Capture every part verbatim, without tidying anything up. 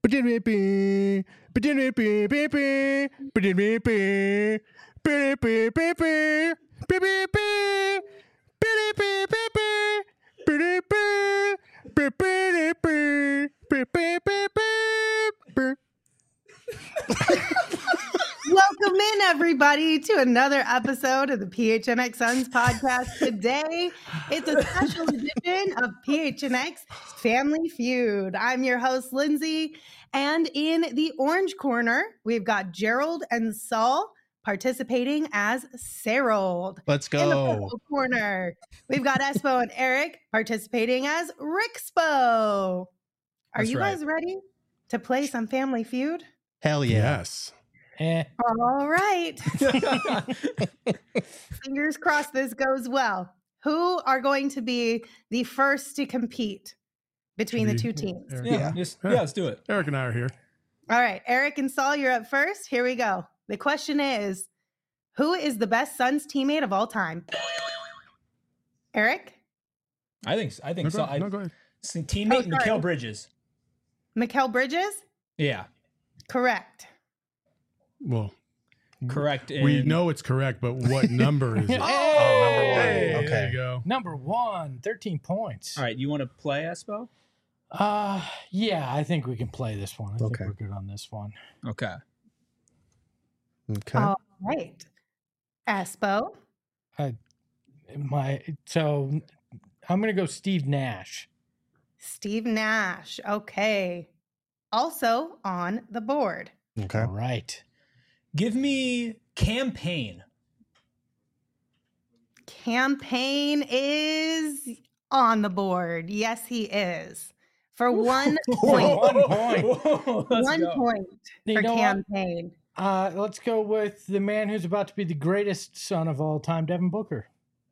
Welcome in, everybody, to another episode of the P H N X Suns podcast. Today, it's a special edition of P H N X Family Feud. I'm your host, Lindsay, and in the orange corner, we've got Gerald and Saul participating as Serold. Let's go. In the purple corner, we've got Espo and Eric participating as Rixpo. Are That's you right. guys ready to play some Family Feud? Hell yeah. Yes. Eh. All right. Fingers crossed this goes well. Who are going to be the first to compete between the two teams? Eric, Yeah, Yeah. just, yeah, let's do it. Eric and I are here. All right. Eric and Saul, you're up first. Here we go. The question is, who is the best Suns teammate of all time? Eric? I think I think No, so. go, I, no, go ahead. teammate Oh, sorry. Mikal Bridges. Mikal Bridges? Yeah, Correct. Well, correct. we in- know it's correct, but what number is it? Oh, number one. Hey, Okay. There you go. Number one, thirteen points. All right, you want to play Espo? Uh, yeah, I think we can play this one. I Okay. think we're good on this one. Okay. Okay. All right. Espo? My so I'm gonna go Steve Nash. Steve Nash. Okay. Also on the board. Okay. All right. Give me campaign. Campaign is on the board. Yes, he is. For one point. One point. Whoa, let's One go. point You for know what? campaign. Uh, let's go with the man who's about to be the greatest son of all time, Devin Booker.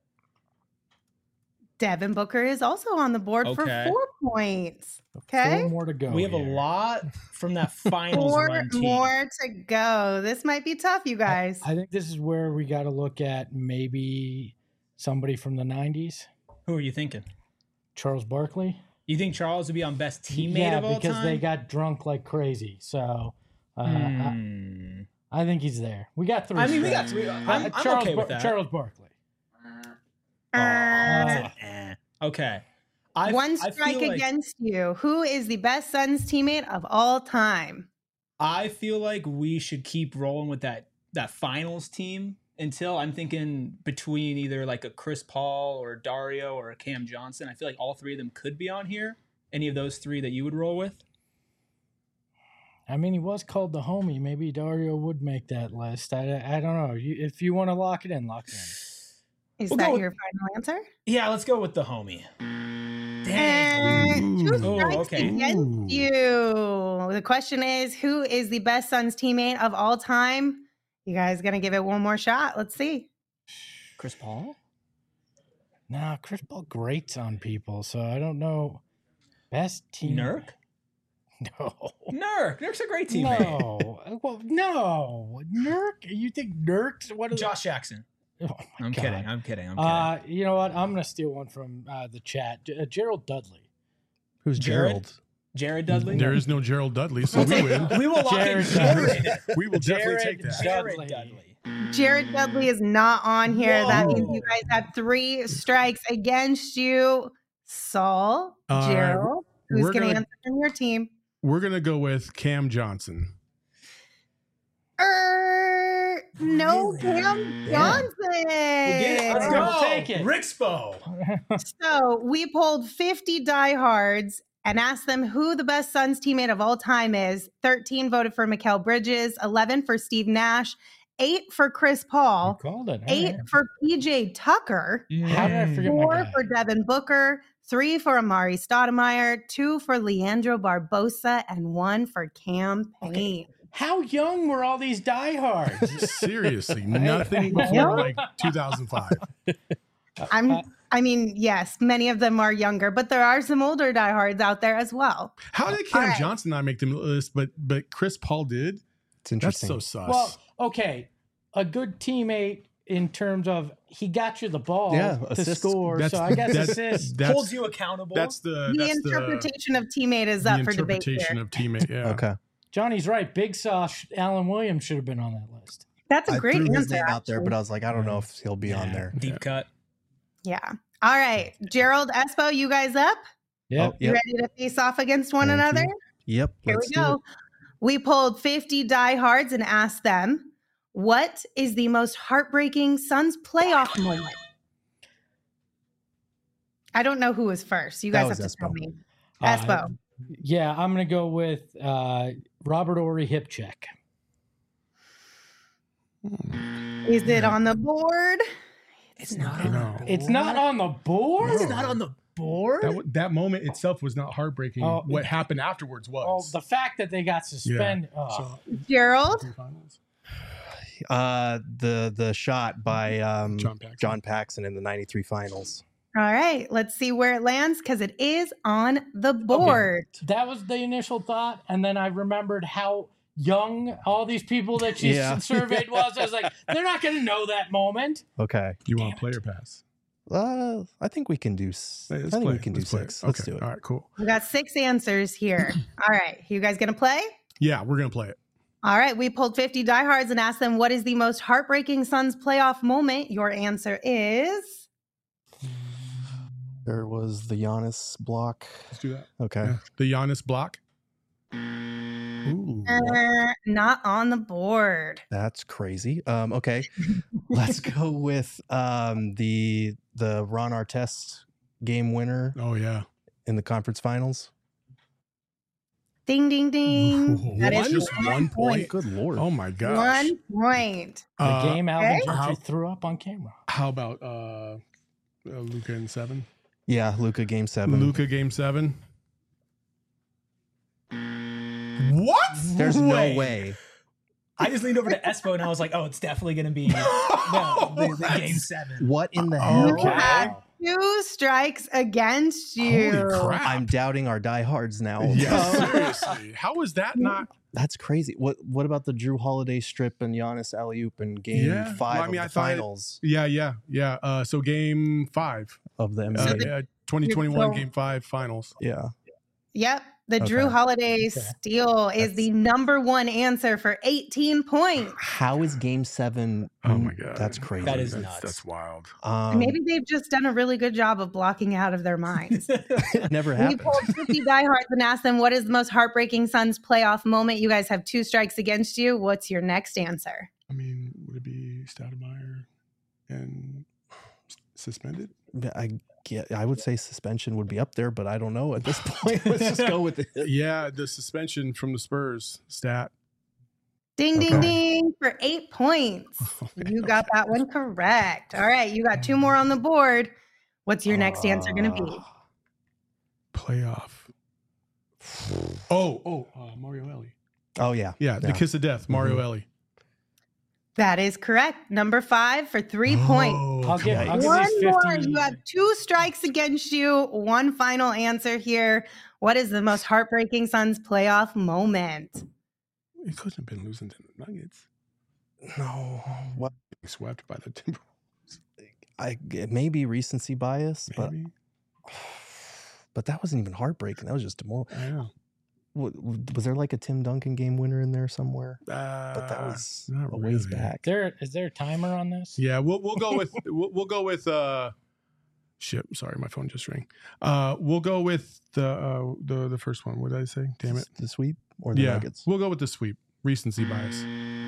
Devin Booker is also on the board for Okay. four points. Okay. Four more to go. We have a here. lot from that finals Four run team. more to go. This might be tough, you guys. I think this is where we got to look at maybe somebody from the nineties, Who are you thinking? Charles Barkley. You think Charles would be on best teammate yeah, of all because time? they got drunk like crazy. So uh, I, Hmm. I think he's there. We got three. I mean, we got strikes. three. I'm, Uh, I'm Charles, okay with Bar- that. Charles Barkley. Uh, Uh, eh. Okay. I, one I strike feel like- against you. Who is the best Suns teammate of all time? I feel like we should keep rolling with that that finals team until I'm thinking between either like a Chris Paul or Dario or a Cam Johnson. I feel like all three of them could be on here. Any of those three that you would roll with? I mean, he was called the homie. Maybe Dario would make that list. I, I don't know. You, if you want to lock it in, lock it in. Is We'll go that with- your final answer? Yeah, let's go with the homie. And two Ooh, strikes okay. against Ooh. you. The question is, who is the best Suns teammate of all time? You guys gonna give it one more shot? Let's see. Chris Paul? Nah, Chris Paul grates on people, so I don't know. Best team. Nurk? No. Nurk. Nurk's a great teammate. No. Well, no. Nurk? You think Nurk's what is Josh Jackson. Oh my I'm God. kidding. I'm kidding. I'm kidding. Uh, you know what? I'm gonna steal one from uh, the chat. J- uh, Gerald Dudley. Who's Jared? Gerald? Jared Dudley? There is no Gerald Dudley, so we win. We will lock in Jared Jared. We will definitely Jared take that. Dudley. Jared Dudley. Jared Dudley is not on here. That means you Whoa. guys have three strikes against you. Saul, All right, Gerald, who's we're gonna, gonna- answer from your team? We're going to go with Cam Johnson. Er, no, Really? Cam Yeah. Johnson. We'll get it. Let's All go. right, we'll take it. Rixpo. So we polled fifty diehards and asked them who the best Suns teammate of all time is. thirteen voted for Mikal Bridges, eleven for Steve Nash, eight for Chris You Paul, called it. All eight right. for P J Tucker, How did I forget my four guy? for Devin Booker, three for Amari Stoudemire, two for Leandro Barbosa, and one for Cam Payne. How young were all these diehards? Seriously, nothing Yeah. before like two thousand five. I'm. I mean, yes, many of them are younger, but there are some older diehards out there as well. How did Cam All right. Johnson not make the list, but but Chris Paul did? It's That's interesting. so sus. Well, okay. A good teammate in terms of he got you the ball Yeah, to assists. score. That's So I the- guess that's- assists. That's, Holds you accountable. That's the The that's interpretation of teammate is the, up the for debate interpretation here. of teammate. Yeah. Okay. Johnny's right. Big Sauce Alan Williams should have been on that list. That's a I great threw answer. his name out there, actually. but I was like, I don't know if he'll be on Yeah. there. Deep Yeah. cut. Yeah. All right. Gerald, Espo, you guys up? Yeah. Oh, You yep. ready to face off against one Thank another? you. Yep. Here let's we do go. it. We pulled fifty diehards and asked them, what is the most heartbreaking Suns playoff moment? I don't know who was first. You That guys have was to tell Espo. me. Uh, Espo. yeah, I'm gonna go with uh, Robert Ory hip check. Is it on the board? It's not on No. the It's not on the board. It's not on the board. That, w- that moment itself was not heartbreaking. Oh, what happened afterwards Oh, was. the fact that they got suspended. Oh. So, Gerald? finals. Uh, the the shot by um, John Paxson. John Paxson in the ninety-three finals. All right. Let's see where it lands because it is on the board. That was the initial thought, and then I remembered how young all these people that she Yeah. surveyed was. I was like, they're not going to know that moment. Okay. You want a player pass? Uh, I think we can do. s- Hey, I let's think play we it. can do Let's play six. it. Let's Okay. do it. All right, cool. We got six answers here. All right. You guys going to play? Yeah, we're gonna play it. All right. We pulled fifty diehards and asked them, what is the most heartbreaking Suns playoff moment? Your answer is. There was the Giannis block. Let's do that. Okay. Yeah. The Giannis block. Ooh. Uh, not on the board. That's crazy. Um, okay. Let's go with um, the the Ron Artest game winner Oh yeah. in the conference finals. Ding, ding, ding. That is One? Just one point. Good lord. Oh my gosh. one point. The Uh, game Alvin okay. Gentry How- threw up on camera. How about uh, uh Luca in seven? Yeah, Luca game seven. Luca game seven. What? There's Way. no way. I just leaned over to Espo and I was like, oh, it's definitely going to be the, the, the game seven. What in the Oh, hell? You had two strikes against you. Holy crap. I'm doubting our diehards now. Yeah, seriously. How is that not? That's crazy. What What about the Drew Holiday strip and Giannis alley-oop in Game Yeah. Five Well, I mean, of I the thought it- finals Yeah, yeah, yeah. Uh, so game five. of the N B A? Uh, the- yeah, twenty twenty-one so- game five finals. yeah. Yep. The Drew Okay. Holiday steal is the number one answer for eighteen points. How is Game Seven? Oh my god, That's crazy. That is that's, nuts. That's wild. Um, Maybe they've just done a really good job of blocking out of their minds. it never We happened. pulled fifty diehards and asked them, what is the most heartbreaking Suns playoff moment? You guys have two strikes against you. What's your next answer? I mean, would it be Stoudemire and s- suspended? I get. I would say suspension would be up there, but I don't know at this point. Let's just go with it. Yeah, the suspension from the Spurs stat. Ding, ding, Okay. ding for eight points. You got that one correct. All right. You got two more on the board. What's your next answer going to be? Uh, Playoff. Oh, oh, uh, Mario Ellie. Oh yeah. Yeah, the Yeah. kiss of death, Mario Mhm. Ellie. That is correct. Number five for three points. Oh, I'll give- come I'll on. give One these more. fifty. You have two strikes against you. One final answer here. What is the most heartbreaking Suns playoff moment? It couldn't have been losing to the Nuggets. No. What? Being swept by the Timberwolves. I it may be recency bias, but Maybe. but that wasn't even heartbreaking. That was just demoralizing. I know. Was there like a Tim Duncan game winner in there somewhere? Uh, But that was not a ways really. back. There is there a timer on this? Yeah, we'll we'll go with we'll, we'll go with uh shit, sorry, my phone just rang. Uh we'll go with the uh the the first one. What did I say? Damn it. The sweep or the Yeah. Nuggets? We'll go with the sweep. Recency bias.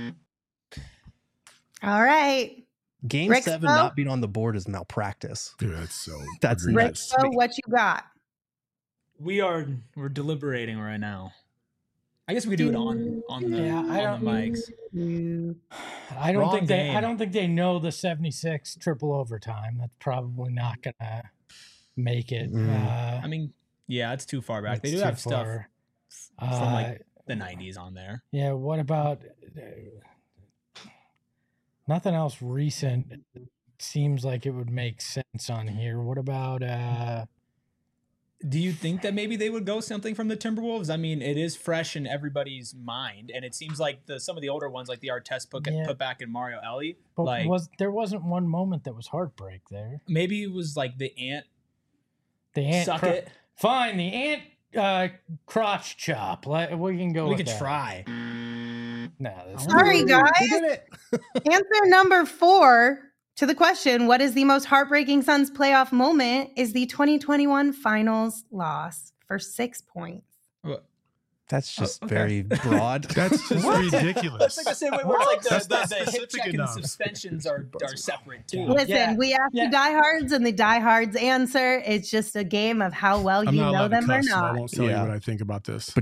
All right. Game Rick seven Spo? not being on the board is malpractice. Dude, that's so That's egregious. Rick, nuts. so what you got? We are we're deliberating right now. I guess we could do it on on the, Yeah, I on the mics. You- I don't Wrong think they I game. don't think they know the seventy-six triple overtime. That's probably not gonna make it. Mm. Uh, I mean, yeah, it's too far back. They it's do too have stuff far. from like Uh, the nineties on there. yeah, what about uh, nothing else recent? Seems like it would make sense on here. What about uh Do you think that maybe they would go something from the Timberwolves? I mean, it is fresh in everybody's mind, and it seems like the some of the older ones, like the Artest put, Yeah. put back in Mario Ellie, But like was there wasn't one moment that was heartbreak there? maybe it was like the ant The ant suck cro- it. Fine, the ant uh, crotch chop. Like, we can go. We with could that. try. No, that's Sorry, guys. We did it. Answer number four to the question, what is the most heartbreaking Suns playoff moment, is the twenty twenty-one finals loss for six points. That's just Oh, okay. very broad. That's just ridiculous. That's like the same way where it's like the, That's the, not the hip specific check and the enough. suspensions are, are separate too. Yeah. Listen, we asked Yeah. the diehards, and the diehards answer. It's just a game of how well I'm you not know allowed to them or cuss, so I not. won't tell Yeah. you what I think about this.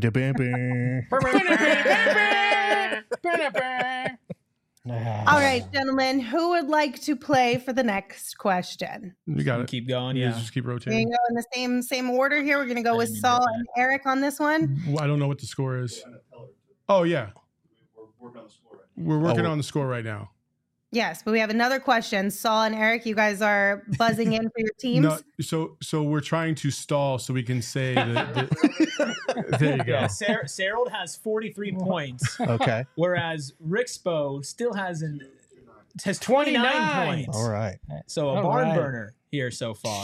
All right, gentlemen, who would like to play for the next question? You got it. Keep going, You yeah. Just keep We're rotating. gonna go in the same same order here. We're gonna go with I mean, Saul yeah. and Eric on this one. Well, I don't know what the score is. Oh yeah, we're working Oh. on the score right now. Yes, but we have another question. Saul and Eric, you guys are buzzing in for your teams. No, so so we're trying to stall so we can say that. that- there you go. Yeah, Sar- Sarold has forty-three points, Okay. whereas Rixpo still has an has twenty-nine twenty-nine. points. All right. So a All barn right. burner here so far.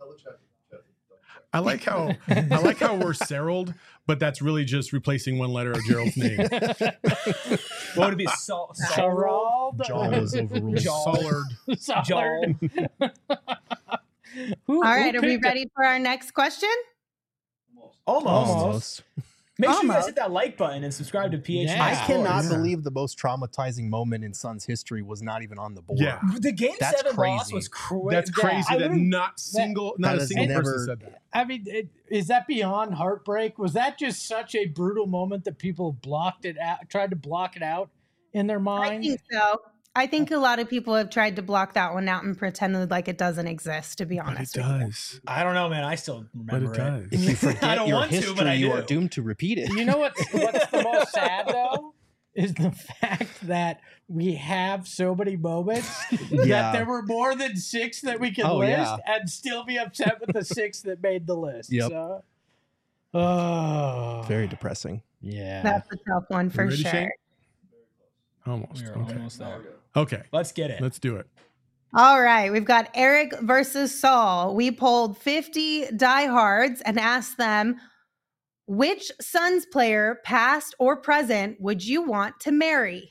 I like how I like how we're Serold, but that's really just replacing one letter of Gerald's name. What would it be? Sol- Sol- Sarald? Jaw was overruled. Jaw. Sollard. Jol. Who, All right, who are we picked ready for our next question? Almost. Almost. Make sure you guys Almost. hit that like button and subscribe to P H. Yeah. I cannot Yeah. believe the most traumatizing moment in Suns history was not even on the board. Yeah. The game That's seven loss crazy. was crazy. That's crazy I that literally- not single not that a has single never- person said that. I mean, it, is that beyond heartbreak? Was that just such a brutal moment that people blocked it out, tried to block it out in their I mind? think so. I think a lot of people have tried to block that one out and pretended like it doesn't exist, to be But it honest. with you. does. I don't know, man. I still But remember it it. does. If you I forget don't your want to, history, but I you are do. doomed to repeat it. You know what? What's the most sad though is the fact that we have so many moments Yeah. that there were more than six that we could Oh, list yeah. and still be upset with the six that made the list. Yep. So, oh, Very depressing. yeah. That's a tough one for ready, sure. Shane? Almost. We're Okay. almost there. Okay. Let's get it. Let's do it. All right, we've got Eric versus Saul. We polled fifty diehards and asked them, which Suns player, past or present, would you want to marry?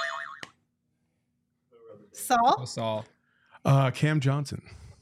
Saul, That's all. Uh, Cam Johnson.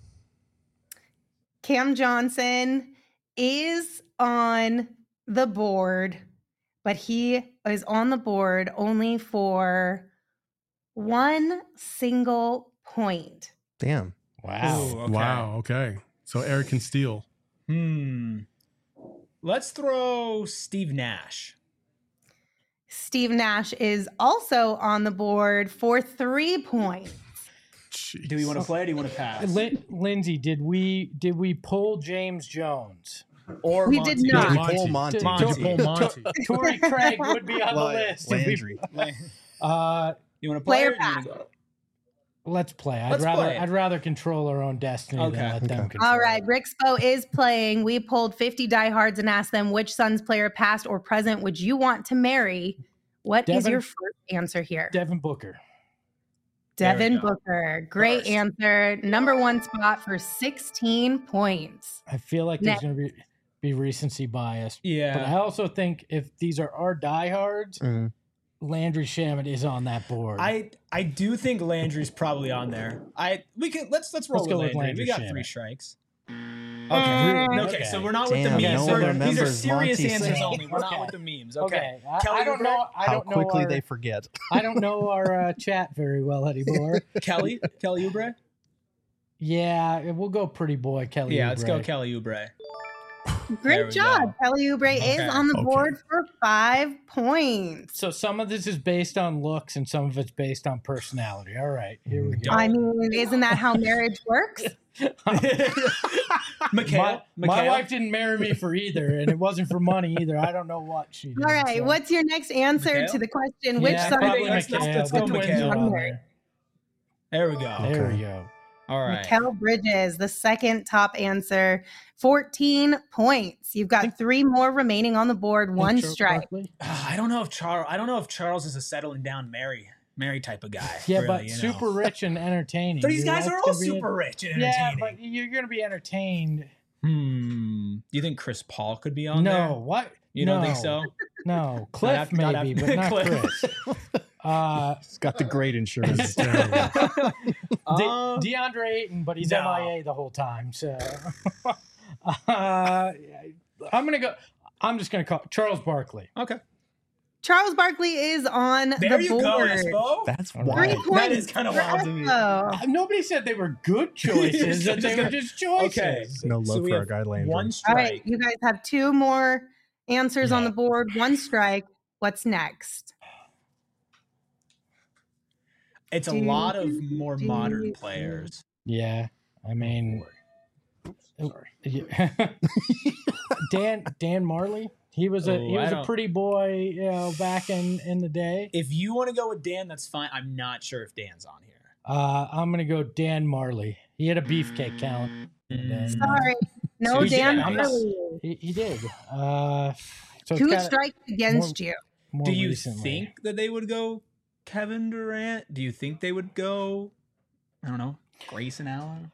Cam Johnson is on the board, but he is on the board only for one single point. Damn. Wow. Ooh, okay. Wow. Okay. So Eric can steal. Hmm. Let's throw Steve Nash. Steve Nash is also on the board for three points. Jeez. Do we want to play or do you want to pass? Lin- Lindsay, did we did we pull James Jones? Or We Monty. did not. Did Monty. you pull Monty? Monty. Did you pull Monty? Torrey Craig would be on the Like list. if we- Landry. uh, You want to play Player or do you wanna go? let's play. I'd Let's rather play. I'd rather control our own destiny Okay. than let them Okay. control. All right, it. Rixpo is playing. We polled fifty diehards and asked them which Suns player, past or present, would you want to marry? What is Devin- your first answer here? Devin Booker. There we Devin go. Booker. Great First. answer. Number one spot for sixteen points. I feel like there's Next. going to be be recency bias, but I Yeah. also think if these are our diehards, Mhm. Landry Shamet is on that board. I I do think Landry's probably on there. I we can let's let's roll Let's with go with Landry. Landry We got Shamet. three strikes. Mm. Okay. Okay. Okay. So we're not Damn, with the no memes. one We're- These are remembers serious Monty answers saying- only. We're Okay. not with the memes. Okay. okay, I, Kelly I don't Oubre? know. I How don't know quickly our, they forget. I don't know our uh, chat very well anymore. Kelly Kelly Oubre. Yeah, we'll go pretty boy Kelly. Yeah, let's go Oubre. Kelly Oubre. There Great we job. go. Kelly Oubre Okay. is on the Okay. board for five points. So some of this is based on looks and some of it's based on personality. All right, here we go. I mean, isn't that how marriage works? Mikhail. my, my Mikhail? wife didn't marry me for either, and it wasn't for money either. I don't know what she did. All right, so- what's your next answer Mikhail? to the question? Which yeah, Suns probably let's- player, let's- Mikhail. let's go The twins Mikhail. are on on there. There we go. There Okay. we go. All right. Mikal Bridges, the second top answer, fourteen points. You've got three more remaining on the board, one Charles strike. Barkley. Ah, I don't know if Charles. I don't know if Charles is a settling down Mary, Mary type of guy. Yeah, really, but you know. super rich and entertaining. So these Your guys life's are all gonna be super en- rich and Yeah, entertaining. but you're going to be entertained. Hmm. Do you think Chris Paul could be on No, there? what? You no, don't think so? No, Cliff after- not maybe, after- but not Cliff. Chris. Uh, He's got the great insurance. It's terrible. De- Uh, DeAndre Ayton, but he's no. M I A the whole time. So uh, I'm gonna go. I'm just gonna call Charles Barkley. okay. Charles Barkley is on There the you board. go, Espo. That's All Three right. wild. points That is kinda for wild to me. Espo. Uh, Nobody said they were good choices. You're that just they were gonna- just choices. Okay. No So love we for our have guy Landry. One All strike. right, you guys have two more answers on Yeah. the board, one strike. What's next? It's a Do, lot of more do, modern do. players. Yeah, I mean, oh, Sorry. yeah. Dan Dan Marley. He was a Oh, he I was a don't- pretty boy, you know, back in in the day. If you want to go with Dan, that's fine. I'm not sure if Dan's on here. Uh, I'm gonna go Dan Marley. He had a beefcake talent. Mm. Sorry, no So you did- Dan I'm not- Marley. He, he did. Uh, so it's Two kinda strikes against you. more Do you recently. think that they would go Kevin Durant? Do you think they would go, I don't know, Grayson Allen?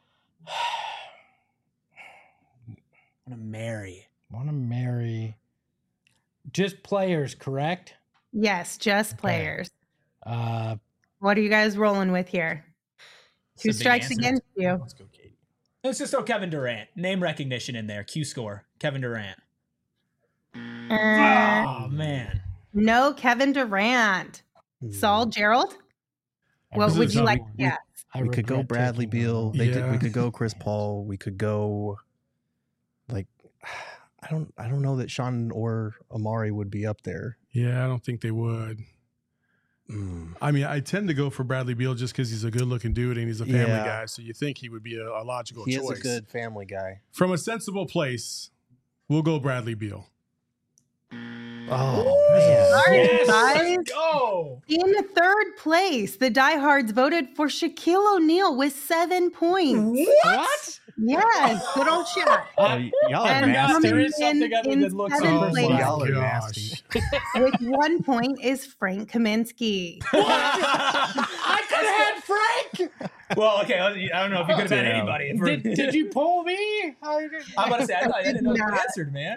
Want to marry? Want to marry? Just players, correct? Yes, just Okay. players. Uh, What are you guys rolling with here? It's a Two big strikes answer. against you. let's go, Katie. Let's just throw Kevin Durant. Name recognition in there. Q score. Kevin Durant. Uh, Oh man. no Kevin Durant. Saul Gerald? What This would is you how like? we- Yeah. I We could go regret Bradley taking Beal. him. They did. We Yeah. could go Chris Paul. We could go, like, I don't. I don't know that Sean or Amari would be up there. Yeah, I don't think they would. Mm. I mean, I tend to go for Bradley Beal just because he's a good-looking dude and he's a family Yeah. guy. So you think he would be a, a logical He choice. is a good family guy. From a sensible place, we'll go Bradley Beal. Oh man. All right, Yes, guys. let's go. In third place, the diehards voted for Shaquille O'Neal with seven points. What? Yes, good old Shaq. Oh, y- y'all are And forgot nasty. there is something in- other in than looks seventh and place. personality. Y'all are gosh. nasty. With one point is Frank Kaminsky. I could have had Frank. Well, okay. I don't know if you could have had Damn. anybody. If we're- Did, did you pull me? I did- I'm about to say I, thought- I didn't know you Nah. answered, man.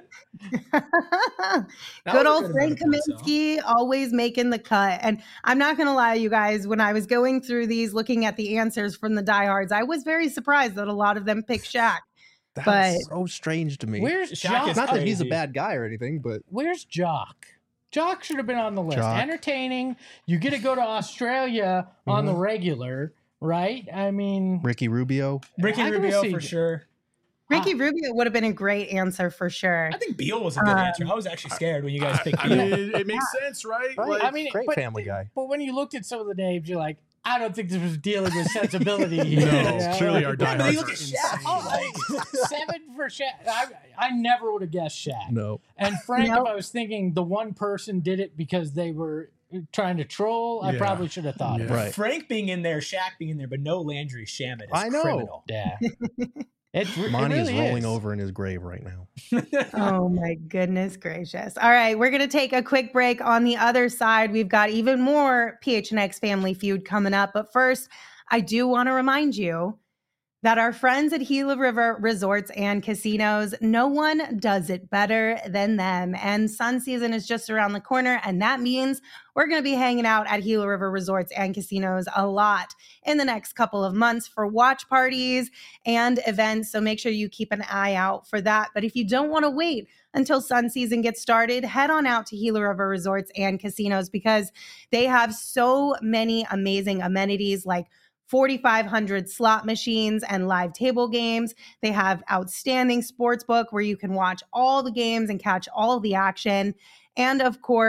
That Good was a old good Frank amount of points, though. Kaminsky always making the cut. And I'm not going to lie, you guys, when I was going through these, looking at the answers from the diehards, I was very surprised that a lot of them picked Shaq. That's But- so strange to me. Where's Shaq Jock? is Not that he's a crazy. bad guy or anything, but Where's Jock? Jock should have been on the list. Jock. Entertaining. You get to go to Australia on the regular, right? I mean, Ricky Rubio. Ricky I gotta Rubio see- for sure. Ricky Rubio would have been a great answer for sure. I think Beal was a good Um, answer. I was actually scared when you guys picked I Beal. mean, it, it makes sense, right? Right. Like, I mean, great but, family guy. But when you looked at some of the names, you're like, I don't think this was dealing with sensibility. here. No, You know, clearly like- our Yeah, but you diehards look are at Shaq. insane. Oh, like, seven for Shaq. I, I never would have guessed Shaq. No. And Frank, Nope. if I was thinking the one person did it because they were trying to troll, I Yeah. probably should have thought of Yeah. it. Right. Frank being in there, Shaq being in there, but no Landry Shamet is I know. criminal. Yeah. It, it Monty really is rolling is. over in his grave right now. Oh my goodness gracious. All right, we're going to take a quick break. On the other side, we've got even more P H N X Family Feud coming up. But first, I do want to remind you that our friends at Gila River Resorts and Casinos, no one does it better than them. And sun season is just around the corner, and that means we're going to be hanging out at Gila River Resorts and Casinos a lot in the next couple of months for watch parties and events. So make sure you keep an eye out for that. But if you don't want to wait until sun season gets started, head on out to Gila River Resorts and Casinos because they have so many amazing amenities like forty-five hundred slot machines and live table games. They have outstanding sports book where you can watch all the games and catch all the action. And of course,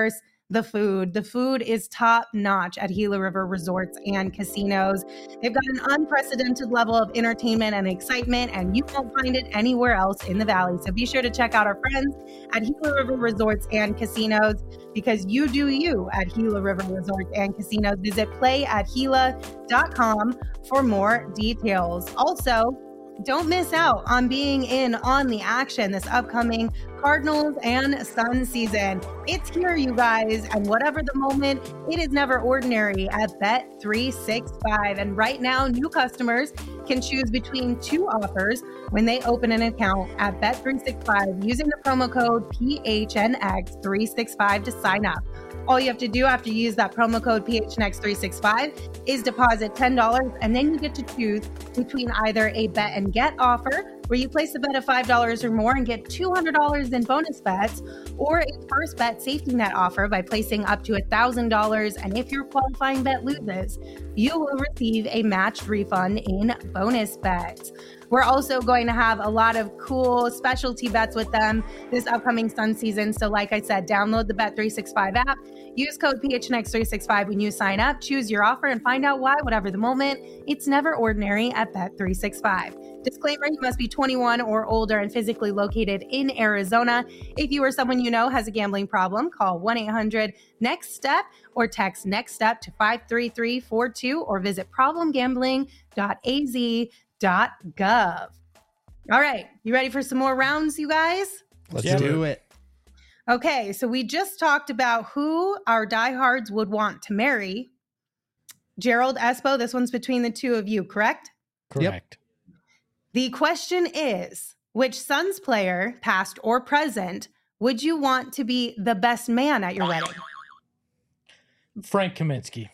the food. The food is top notch at Gila River Resorts and Casinos. They've got an unprecedented level of entertainment and excitement, and you won't find it anywhere else in the Valley. So be sure to check out our friends at Gila River Resorts and Casinos, because you do you at Gila River Resorts and Casinos. Visit play at gila dot com for more details. Also, don't miss out on being in on the action this upcoming Cardinals and Suns season. It's here, you guys, and whatever the moment, it is never ordinary at Bet three sixty-five. And right now, new customers can choose between two offers when they open an account at Bet three sixty-five using the promo code P H N X three sixty-five to sign up. All you have to do after you use that promo code P H N X three sixty-five is deposit ten dollars, and then you get to choose between either a bet and get offer, where you place a bet of five dollars or more and get two hundred dollars in bonus bets, or a first bet safety net offer by placing up to one thousand dollars. And if your qualifying bet loses, you will receive a matched refund in bonus bets. We're also going to have a lot of cool specialty bets with them this upcoming Sun season. So like I said, download the Bet three sixty-five app, use code P H N X three sixty-five when you sign up, choose your offer, and find out why, whatever the moment, it's never ordinary at Bet three sixty-five. Disclaimer, you must be twenty-one or older and physically located in Arizona. If you or someone you know has a gambling problem, call one eight hundred next step or text NEXTSTEP to five three three four two or visit problem gambling dot a z dot gov. All right, you ready for some more rounds, you guys? Let's Yeah. do it. Okay, so we just talked about who our diehards would want to marry. Gerald, Espo, this one's between the two of you, correct? Correct. The question is, which Suns player, past or present, would you want to be the best man at your wedding? Frank Kaminsky.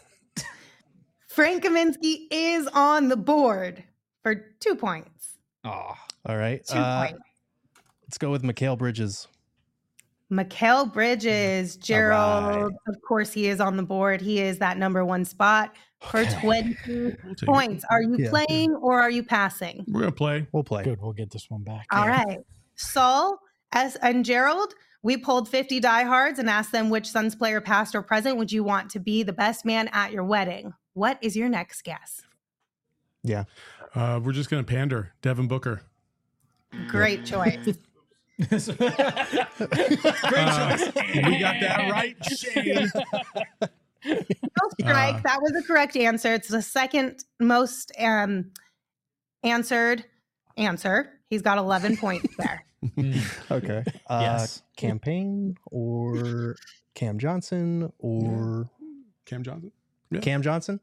Frank Kaminsky is on the board for two points. Oh, All right. Two Uh, points. let's go with Mikal Bridges. Mikal Bridges, Gerald, right. of course, he is on the board. He is that number one spot for Okay. twenty We'll take points. Are you Yeah. playing or are you passing? We're gonna play. We'll play. Good. We'll get this one back. All right. Saul as, and Gerald, we pulled fifty diehards and asked them which Suns player, past or present, would you want to be the best man at your wedding? What is your next guess? Uh, we're just gonna pander. Devin Booker. Great choice. great Uh, choice. we got that right, Shane. No strike. Uh, that was the correct answer. It's the second most um, answered answer. He's got eleven points there. Okay. Uh, Yes. Campaign or Cam Johnson or Cam Johnson. Cam Johnson?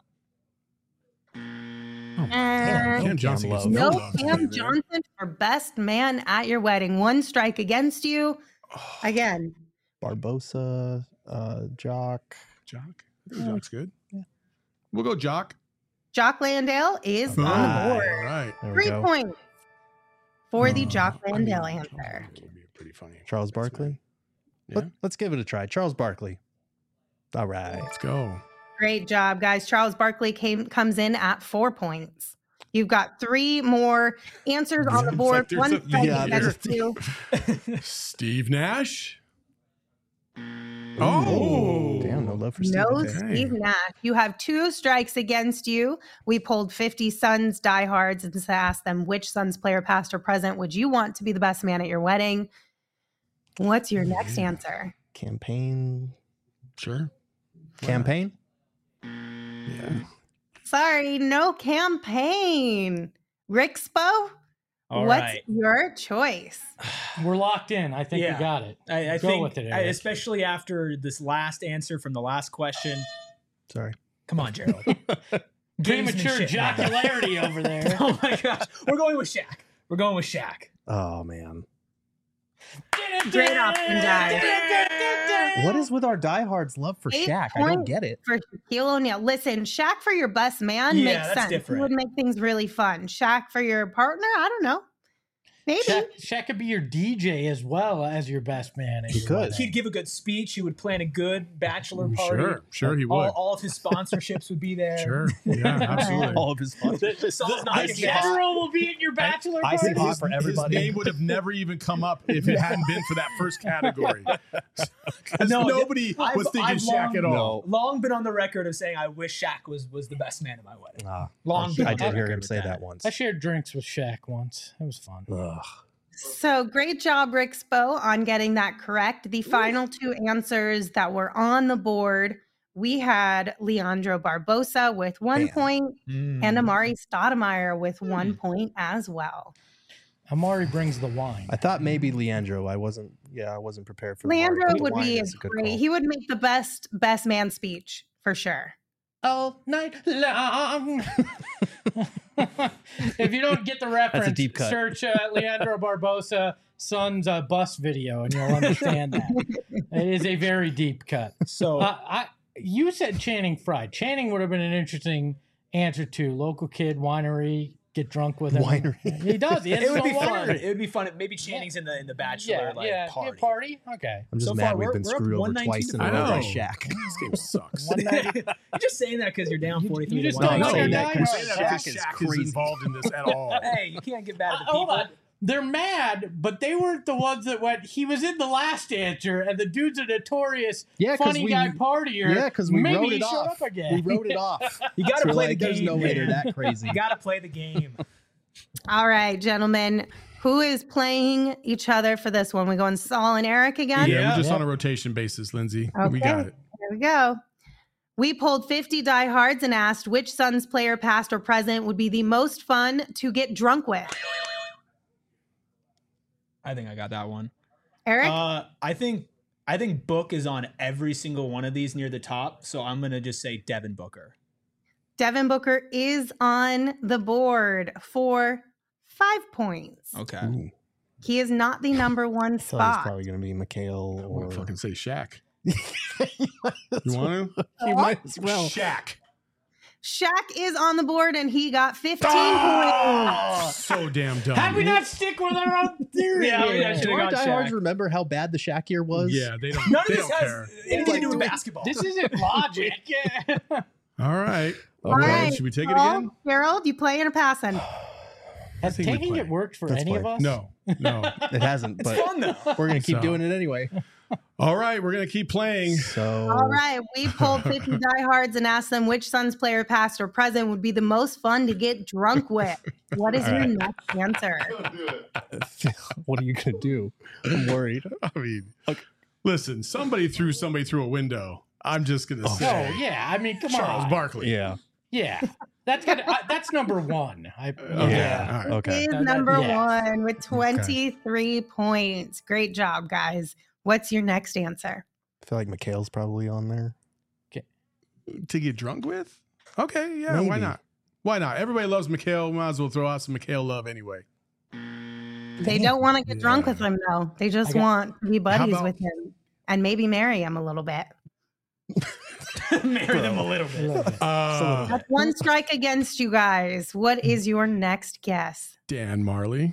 Oh, And Cam Johnson. gets Cam no love Cam today, man. Johnson for best man at your wedding. One strike against you. Again, Barbosa, uh, Jock. Jock. I think Jock's good. We'll go Jock. Jock Landale is on the Right. board. All right. There we Three go. points for the Uh, Jock I mean, Landale Charles answer. Barkley would be pretty funny. Charles That's Barkley. Yeah. Let, let's give it a try. Charles Barkley. All right. Let's go. Great job, guys. Charles Barkley came comes in at four points. You've got three more answers on the It's board. like there's One a- strike yeah, against there's- you. Steve Nash. Oh, Damn, no love for Steve. No Okay. Steve Nash. You have two strikes against you. We pulled fifty Suns diehards and asked them which Suns player, past or present, would you want to be the best man at your wedding? What's your next Yeah. answer? Campaign. Sure. Campaign? Yeah. Sorry, no campaign. Rixpo, All what's right. your choice? We're locked in. I think Yeah. we got it. I, I Go think, with it, I- Eric. especially after this last answer from the last question. Sorry. Come on, Gerald. Premature Gamesmanship. jocularity over there. Oh my gosh, we're going with Shaq. We're going with Shaq. Oh, man. Great option, guys. What is with our diehards' love for Eight Shaq? I don't points. get it. For Shaquille O'Neal. Listen, Shaq for your best man Yeah, makes that's sense. different. It would make things really fun. Shaq for your partner, I don't know. Maybe. Shaq, Shaq could be your D J as well as your best man. at He your could. wedding. He'd give a good speech. He would plan a good bachelor party. Sure, sure he would. All, all of his sponsorships would be there. Sure, yeah, absolutely. All of his sponsors. Saul's not The gonna guess. general will be at your bachelor I see party. hot for everybody. His name would have never even come up if it hadn't been for that first category. 'Cause No, nobody I've- was thinking I've Shaq at long- all. Long been on the record of saying I wish Shaq was was the best man at my wedding. Ah, Long I, been I on the did hear record him with say that. that once. I shared drinks with Shaq once. It was fun. Ugh. So great job, Rixpo, on getting that correct. The final two answers that were on the board, we had Leandro Barbosa with one Damn. point Mm. and Amari Stoudemire with one point as well. Amari brings the wine. I thought maybe Leandro. I wasn't. Yeah, I wasn't prepared for. Leandro Lamar, but would wine be a is good great. call. He would make the best best man speech for sure. All night long. If you don't get the reference, deep cut. search uh, Leandro Barbosa son's uh, bus video, and you'll understand that. It is a very deep cut. So Uh, I, you said Channing Frye. Channing would have been an interesting answer to local kid winery. Get drunk with him. Winery. He does. He has it his would be own fun. winery. It would be fun. if Maybe Channing's in the in the bachelor Yeah, like yeah, party. yeah, party. Okay. I'm just So mad far, we've we're- been we're up screwed over one nineteen twice to in a I row by know. Shaq. This game sucks. One night, You're just saying that because you're down You- forty-three you to just one. don't No, know no, your you guy. can say that because Shaq is Shaq is crazy. involved in this at all. Hey, you can't get mad at the Uh, hold people. on. They're mad, but they weren't the ones that went. He was in the last answer, and the dude's a notorious Yeah, 'cause funny we- guy partier. Yeah, because we Maybe wrote he it showed off. up again. We wrote it off. You got So to we're play like, the There's game. no way they're man. that crazy. You got to play the game. All right, gentlemen. Who is playing each other for this one? We going Saul and Eric again? Yeah, we're just Yeah. on a rotation basis, Lindsay. Okay. We got it. Here we go. We pulled fifty diehards and asked which Suns player, past or present, would be the most fun to get drunk with. I think I got that one. Eric? Uh, I think I think Book is on every single one of these near the top, so I'm gonna just say Devin Booker. Devin Booker is on the board for five points. Okay. Ooh, He is not the number one I thought it was spot. probably going to be Mikhail I or. want to fucking say Shaq. you You want to? might as well. Shaq. Shaq is on the board and he got fifteen Oh, so damn dumb. How do we not stick with our own theory? Yeah, here? yeah, Do should've our got diehards Shaq. remember how bad the Shaq year was? Yeah, they don't. None of they this don't has care. anything to do with Like, basketball. This isn't logic. Yeah. All right. All Okay. right, Should we take it Paul, again? Gerald, you playing or passing? Has think we taking play. it worked for Let's any play. of us? No, no. It hasn't, It's but fun though. we're going to keep So- doing it anyway. All right, we're gonna keep playing. So. All right, we pulled fifty diehards and asked them which Suns player, past or present, would be the most fun to get drunk with. What is All your right. next answer? What are you going to do? I'm worried. I mean, listen, somebody threw somebody through a window. I'm just gonna Oh, say Oh, yeah. I mean, come Charles on. Barkley. Yeah. Yeah. That's good. I, that's number one. I, Okay. Yeah. all right. Okay. Is That- that- number yeah. one with twenty-three points. Great job, guys. What's your next answer? I feel like Mikhail's probably on there. To get drunk with? Okay, yeah, why Maybe. not? Why not? Everybody loves Mikhail. Might as well throw out some Mikhail love anyway. They don't want to get drunk Yeah. with him, though. They just I got- want to be buddies about- with him and maybe marry him a little bit. Marry them a little I bit. love it. Uh, That's one strike against you guys. What is your next guess? Dan Marley.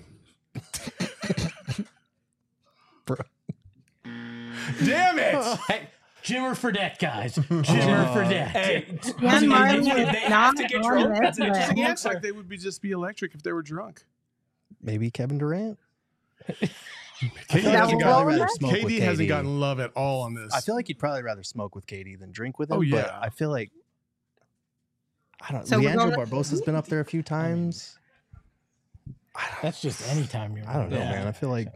Bro. Damn it! Hey, Jimmer Fredette, guys. Jimmer Fredette. Hey, Dan Marley if is they have not to get on drunk, this that's an list. interesting It looks answer. like they would be just be electric if they were drunk. Maybe Kevin Durant. K D That hasn't, will gotten, roll rather with smoke K D with hasn't K D. gotten love at all on this. I feel like you'd probably rather smoke with K D than drink with him. Oh, yeah. But I feel like I don't. So we're Leandro going Barbosa's been up there a few times. That's just anytime you're. I don't know, Yeah. man. I feel like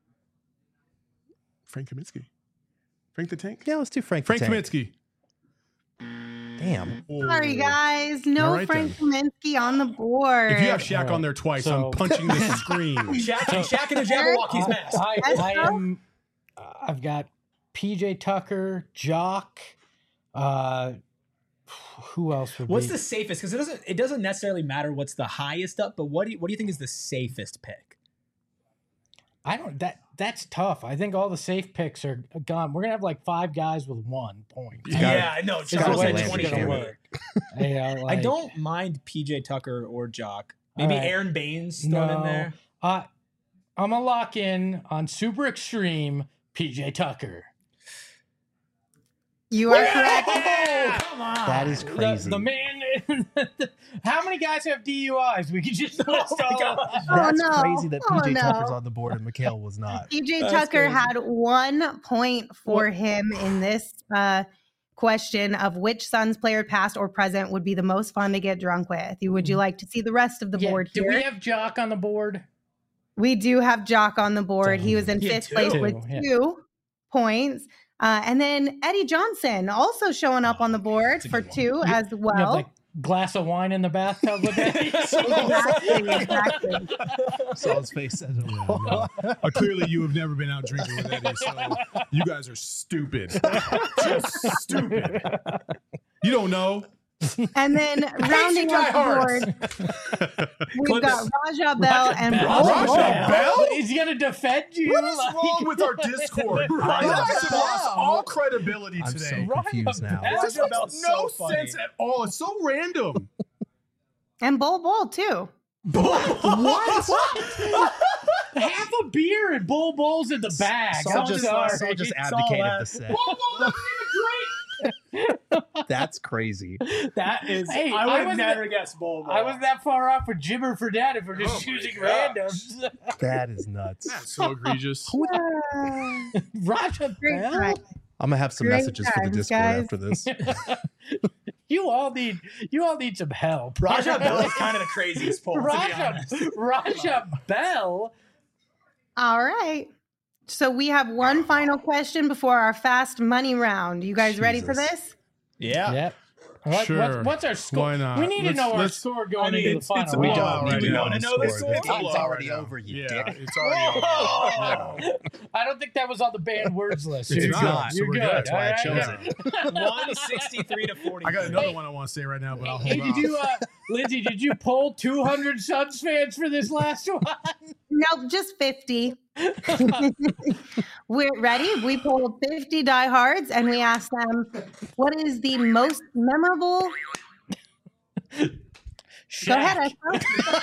Frank Kaminsky. Frank the Tank? yeah, let's do Frank. the Frank Tank. Kaminsky. Damn. Sorry, guys. No All right, Frank Kaminsky on the board. If you have Shaq Alright, on there twice, so- I'm punching the screen. Shaq, Shaq in a Jabberwocky's I, mask. I, Let's I go. am. uh, I've got P J Tucker, Jock. Uh, who else would What's be? the safest? Because it doesn't it doesn't necessarily matter what's the highest up, but what do you, what do you think is the safest pick? I don't. That that's tough. I think all the safe picks are gone. We're gonna have like five guys with one point. gotta- Yeah, I know. Is the gotta Charles way say had this Landry is twenty. gonna Shamet. work. Yeah, I like- don't mind P J Tucker or Jock. Maybe All right. Aaron Baines thrown in No. there. Uh, I'm gonna lock in on Super Extreme P J Tucker. You are correct. Oh, come on. That is The- crazy. The, man. How many guys have D U Is? We could just list all of them. Oh, That's no. crazy that Oh, P J no. Tucker's on the board and Mikhail was not. P J That's Tucker crazy. had one point for him in this uh, question of which Suns player, past or present, would be the most fun to get drunk with. You Would you like to see the rest of the Yeah, board do here? we have Jock on the board? We do have Jock on the board. He was in Yeah, fifth place two, with yeah. two points. Uh, and then Eddie Johnson also showing up on the board That's a for good one. two You- as You have well. that glass of wine in the bathtub with that. Exactly, exactly. Saw his face says it Yeah, all. no. Uh, clearly, you have never been out drinking with Eddie, so you guys are stupid. Just stupid. You don't know. And then rounding out the board, we've Clip got it. Raja Bell and Bell? Bol Raja Bol. Bell? Is he gonna defend you? What is Like- wrong with our Discord? You Raja guys have lost Bell. all credibility I'm today. so confused now. Raja This Raja makes Bell's no so funny. sense at all. It's so random. And Bol Bol, too. What? Half a beer and Bull Bowls in the bag. Saul I'm just, sorry. Saul just It's all advocated that. the set. Whoa, whoa, let me That's crazy. That is, Hey, I I would have wasn't- never guessed Bull Ball. I wasn't that far off with Jimmer for Dad if we're just Oh my choosing gosh. randoms. That is nuts. That's so egregious. Ah, Raja great Bell? time. I'm gonna have some Great messages for the times, Discord guys. after this. You all need you all need some help. Raja Bell is kind of the craziest poll, to be Raja, honest. Raja Bell. All right. So we have one final question before our fast money round. You guys ready for Jesus. this? Yeah. Yep. What, Sure. what's, what's our score? Why not? We need Let's- to know our let's- score going I mean, into the it's- final it's a We round. don't Wow, need to right know now. the know the score. score? The game's Wow, already right now. over, you Yeah, dick. it's already over. Yeah. I don't think that was on the banned words list. It's You're not, good. so You're we're good. good. That's why I All chose right. it. one sixty-three to forty. I got another one I want to say right now, but I'll hold Hey, on. did you, uh, Lindsay, did you poll two hundred Suns fans for this last one? Nope, just fifty. We're ready. We pulled fifty diehards and we asked them, what is the most memorable? Go ahead, Espo.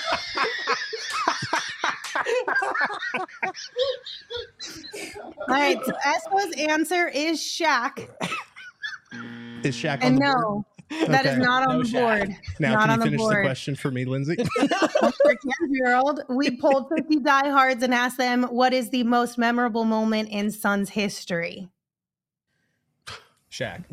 All right, so Espo's answer is Shaq. Is Shaq on And the board? no, that is Okay. not on No the Shaq. board. Now, not can on you the finish the board. question for me, Lindsay? For ten-year-old, we pulled fifty diehards and asked them, what is the most memorable moment in Suns history? Shaq.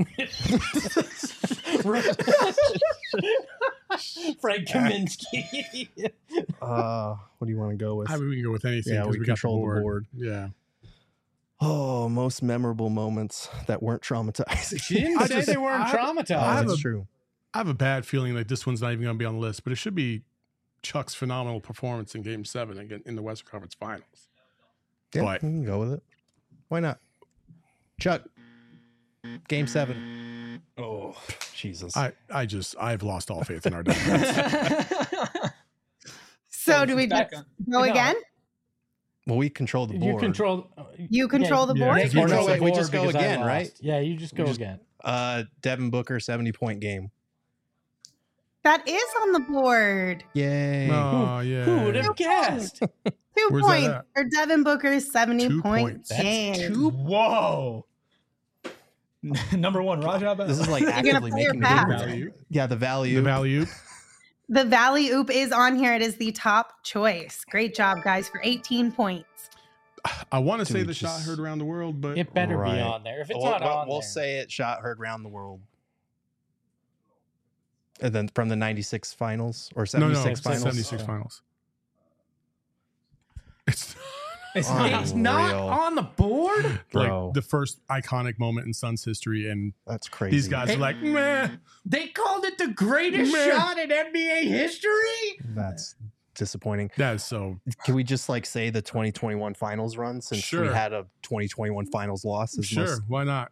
Frank Kaminsky. uh, what do you want to go with? I mean, we can go with anything. Yeah, 'cause we we got control the board. board. Yeah. Oh, most memorable moments that weren't traumatizing. She didn't I say just- they weren't I- Oh, traumatized. I have that's a- true. I have a bad feeling like this one's not even going to be on the list, but it should be Chuck's phenomenal performance in Game Seven again in the Western Conference Finals. Yeah, But- we can go with it. Why not? Chuck, Game Seven. Oh. Jesus. I, I just I've lost all faith in our defense. So do we Back just on. go No. again? well, we control the board. You control. You control the yeah, board? yeah. They Or no, control wait, the we board just go because I again, lost. right? Yeah, you just go just- again. Uh, Devin Booker, seventy point game. That is on the board. Yay. Oh yeah. Who would have guessed? Two Where's that points at? for Devin Booker's seventy Two point points. That's game. Whoa. Number one, Raja Bell. This is like gonna actively play your making the pass? game. Value. Yeah, the value. The value. The Valley Oop is on here. It is the top choice. Great job, guys, for eighteen points. I want to say Dude, the shot just- heard around the world, but It better Right. be on there. If it's we'll, not we'll- on we'll there, say it. Shot heard round the world. And then from the ninety-six finals or no, no, seventy-six it's finals. seventy-six finals. It's It's Oh. not. it's not Unreal. on the board. Bro. like the first iconic moment in Suns history, and That's crazy. these guys Hey. are like, meh. They called it the greatest Man. shot in N B A history. That's disappointing. That is so. Can we just like say the twenty twenty-one finals run since we Sure. had a twenty twenty-one finals loss? Is Sure, most- why not?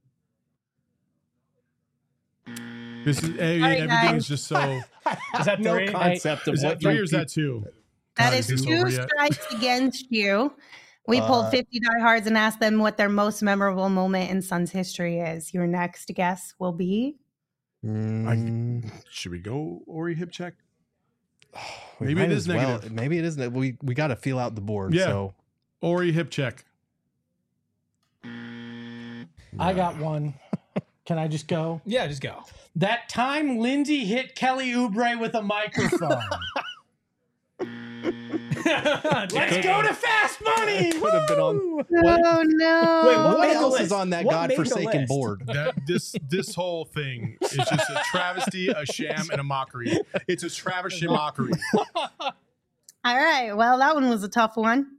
This is every, right, everything guys. is just so. Is that no three? concept of Is what that three you or is that two? That God, is this two over yet? strikes against you. We pulled Uh, fifty diehards and asked them what their most memorable moment in Suns history is. Your next guess will be Mm, Should we go Ori hip check? We Maybe might it is as well- negative. Maybe it is. ne- We we got to feel out the board. Yeah. So Ori hip check. I got one. Can I just go? Yeah, just go. That time Lindsay hit Kelly Oubre with a microphone. Let's go to Fast Money. could have been on. Woo! Oh no! Wait, what What made the else is list? on that What made the godforsaken list? board? That this this whole thing is just a travesty, a sham, and a mockery. It's a travesty mockery. All right. Well, that one was a tough one.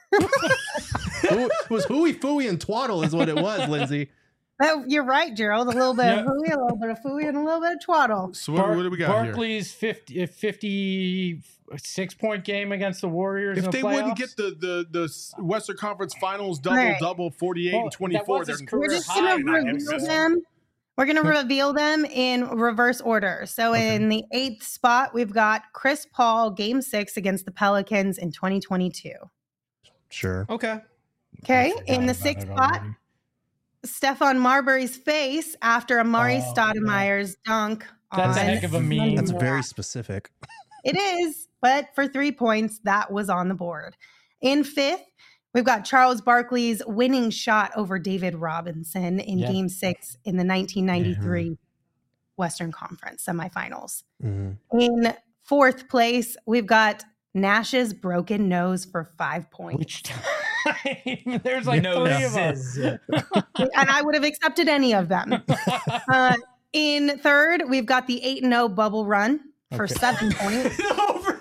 It was hooey fooey and twaddle is what it was, Lindsay. Oh, you're right, Gerald. A little bit Yeah. of hooey, a little bit of fooey, and a little bit of twaddle. So what, what do we got here? Barkley's fifty, uh, fifty-six point game against the Warriors. If in the they wouldn't playoffs. get the the the Western Conference Finals double Right. double forty-eight Well, and that twenty-four, was his they're career We're just high, gonna not reveal existing. them. We're gonna reveal them in reverse order. So Okay. in the eighth spot, we've got Chris Paul, Game Six against the Pelicans in twenty twenty-two. Sure. Okay. Okay, forgot in the about sixth it spot, already. Stephon Marbury's face after Amari Oh, Stoudemire's dunk. That's a on heck of a meme. That's Monday very night. specific. It is, but for three points, that was on the board. In fifth, we've got Charles Barkley's winning shot over David Robinson in Yeah. Game Six in the nineteen ninety-three Western Conference semifinals. Mhm. In fourth place, we've got Nash's broken nose for five points. Which time? There's like No, three of this us. And I would have accepted any of them. Uh, in third, we've got the eight and oh bubble run for Okay. seven points. Over.